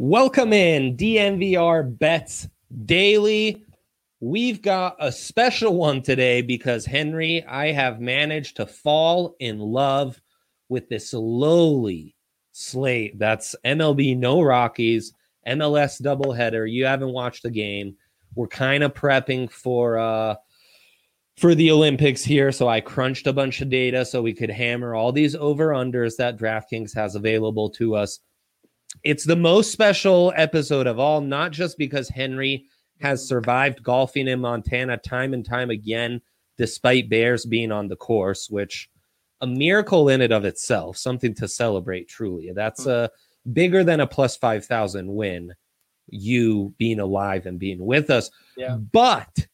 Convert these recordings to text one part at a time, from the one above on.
Welcome in DNVR Bets Daily. We've got a special one today because, Henry, I have managed to fall in love with this lowly slate. That's MLB No Rockies, MLS doubleheader. You haven't watched the game. We're kind of prepping for the Olympics here, so I crunched a bunch of data so we could hammer all these over-unders that DraftKings has available to us. It's the most special episode of all, not just because Henry has survived golfing in Montana time and time again, despite bears being on the course, which a miracle in and of itself, something to celebrate truly. That's bigger than a plus 5,000 win, you being alive and being with us. Yeah. But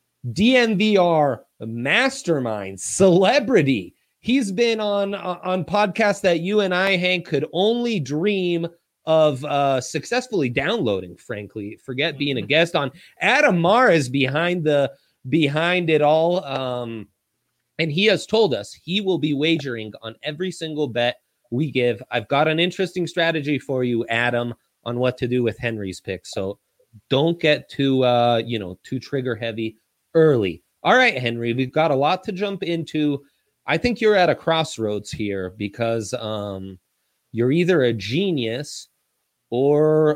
DNVR mastermind celebrity, he's been on podcasts that you and I, Hank, could only dream of successfully downloading, frankly. Forget being a guest on. Adam Marr is behind it all. And he has told us he will be wagering on every single bet we give. I've got an interesting strategy for you, Adam, on what to do with Henry's pick. So don't get too trigger heavy early. All right, Henry, we've got a lot to jump into. I think you're at a crossroads here because you're either a genius or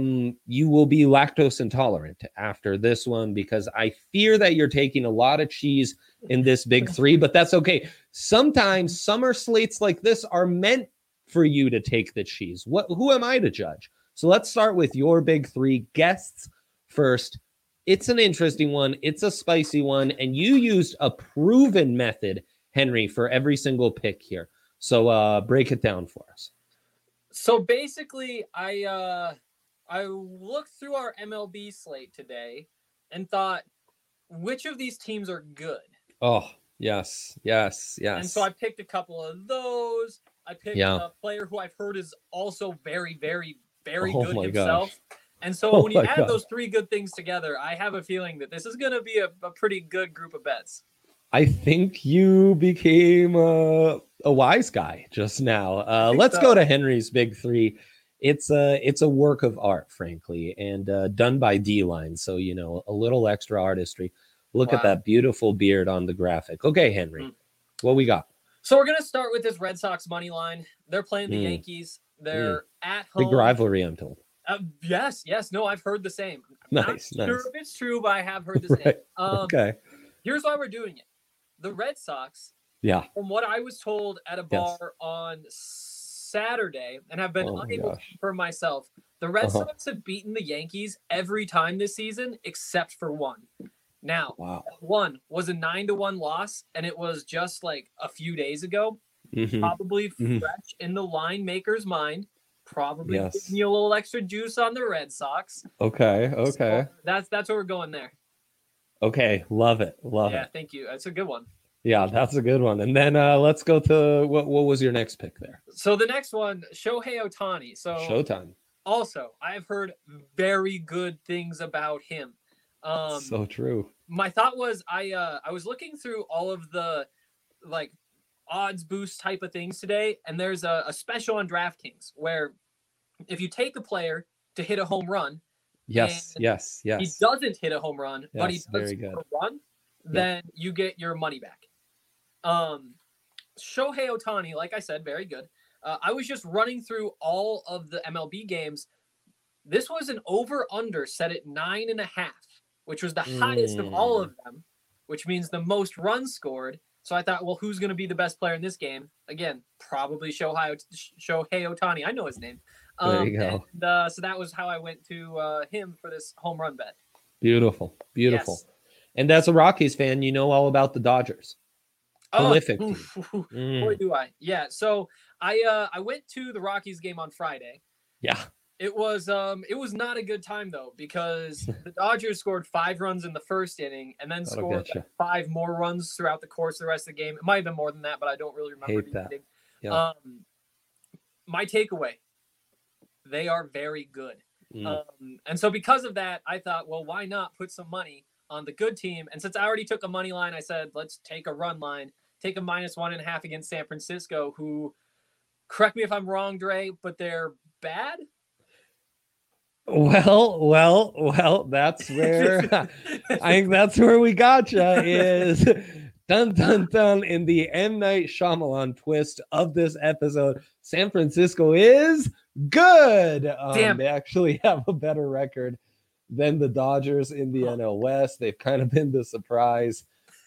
you will be lactose intolerant after this one, because I fear that you're taking a lot of cheese in this big three, but that's okay. Sometimes summer slates like this are meant for you to take the cheese. Who am I to judge? So let's start with your big three guests first. It's an interesting one. It's a spicy one. And you used a proven method, Henry, for every single pick here. So break it down for us. So basically, I looked through our MLB slate today and thought, which of these teams are good? Oh, yes. And so I picked a couple of those. I picked a player who I've heard is also very, very, very good himself. Gosh. And so when you add those three good things together, I have a feeling that this is going to be a pretty good group of bets. I think you became a wise guy just now. Let's go to Henry's big three. It's a work of art, frankly, and done by D-Line. So, a little extra artistry. Look at that beautiful beard on the graphic. Okay, Henry, what we got? So we're going to start with this Red Sox money line. They're playing the Yankees. They're at home. Big rivalry, I'm told. Yes. No, I've heard the same. Nice. Not sure if it's true, but I have heard the same. Okay. Here's why we're doing it. The Red Sox, from what I was told at a bar on Saturday, and have been unable to confirm myself, the Red Sox have beaten the Yankees every time this season except for one. Now, one was a 9-1 loss, and it was just like a few days ago. Probably fresh in the line maker's mind. Probably giving you a little extra juice on the Red Sox. Okay. So that's where we're going there. Okay, love it. Yeah, thank you. That's a good one. Yeah, that's a good one. And then let's go to what was your next pick there? So the next one, Shohei Ohtani. So Showtime. Also, I've heard very good things about him. So true. My thought was I was looking through all of the odds boost type of things today, and there's a special on DraftKings where if you take a player to hit a home run, yes, he doesn't hit a home run, but he does hit a run, then you get your money back. Shohei Ohtani, like I said, very good. I was just running through all of the MLB games. This was an over-under set at 9.5, which was the highest of all of them, which means the most runs scored. So I thought, well, who's going to be the best player in this game? Again, probably Shohei Ohtani. I know his name. There you go. And, so that was how I went to him for this home run bet. Beautiful. Yes. And as a Rockies fan, you know all about the Dodgers. Prolific. Boy, do I. Yeah. So I went to the Rockies game on Friday. Yeah. It was not a good time though, because the Dodgers scored 5 runs in the first inning and then scored 5 more runs throughout the course of the rest of the game. It might have been more than that, but I don't really remember. Hate that. Yeah. My takeaway, they are very good. And so because of that, I thought, well, why not put some money on the good team? And since I already took a money line, I said, let's take a run line, take a -1.5 against San Francisco, who, correct me if I'm wrong, Dre, but they're bad. Well, that's where I think that's where we gotcha is dun dun dun in the M. Night Shyamalan twist of this episode. San Francisco is good. They actually have a better record than the Dodgers in the NL West. They've kind of been the surprise.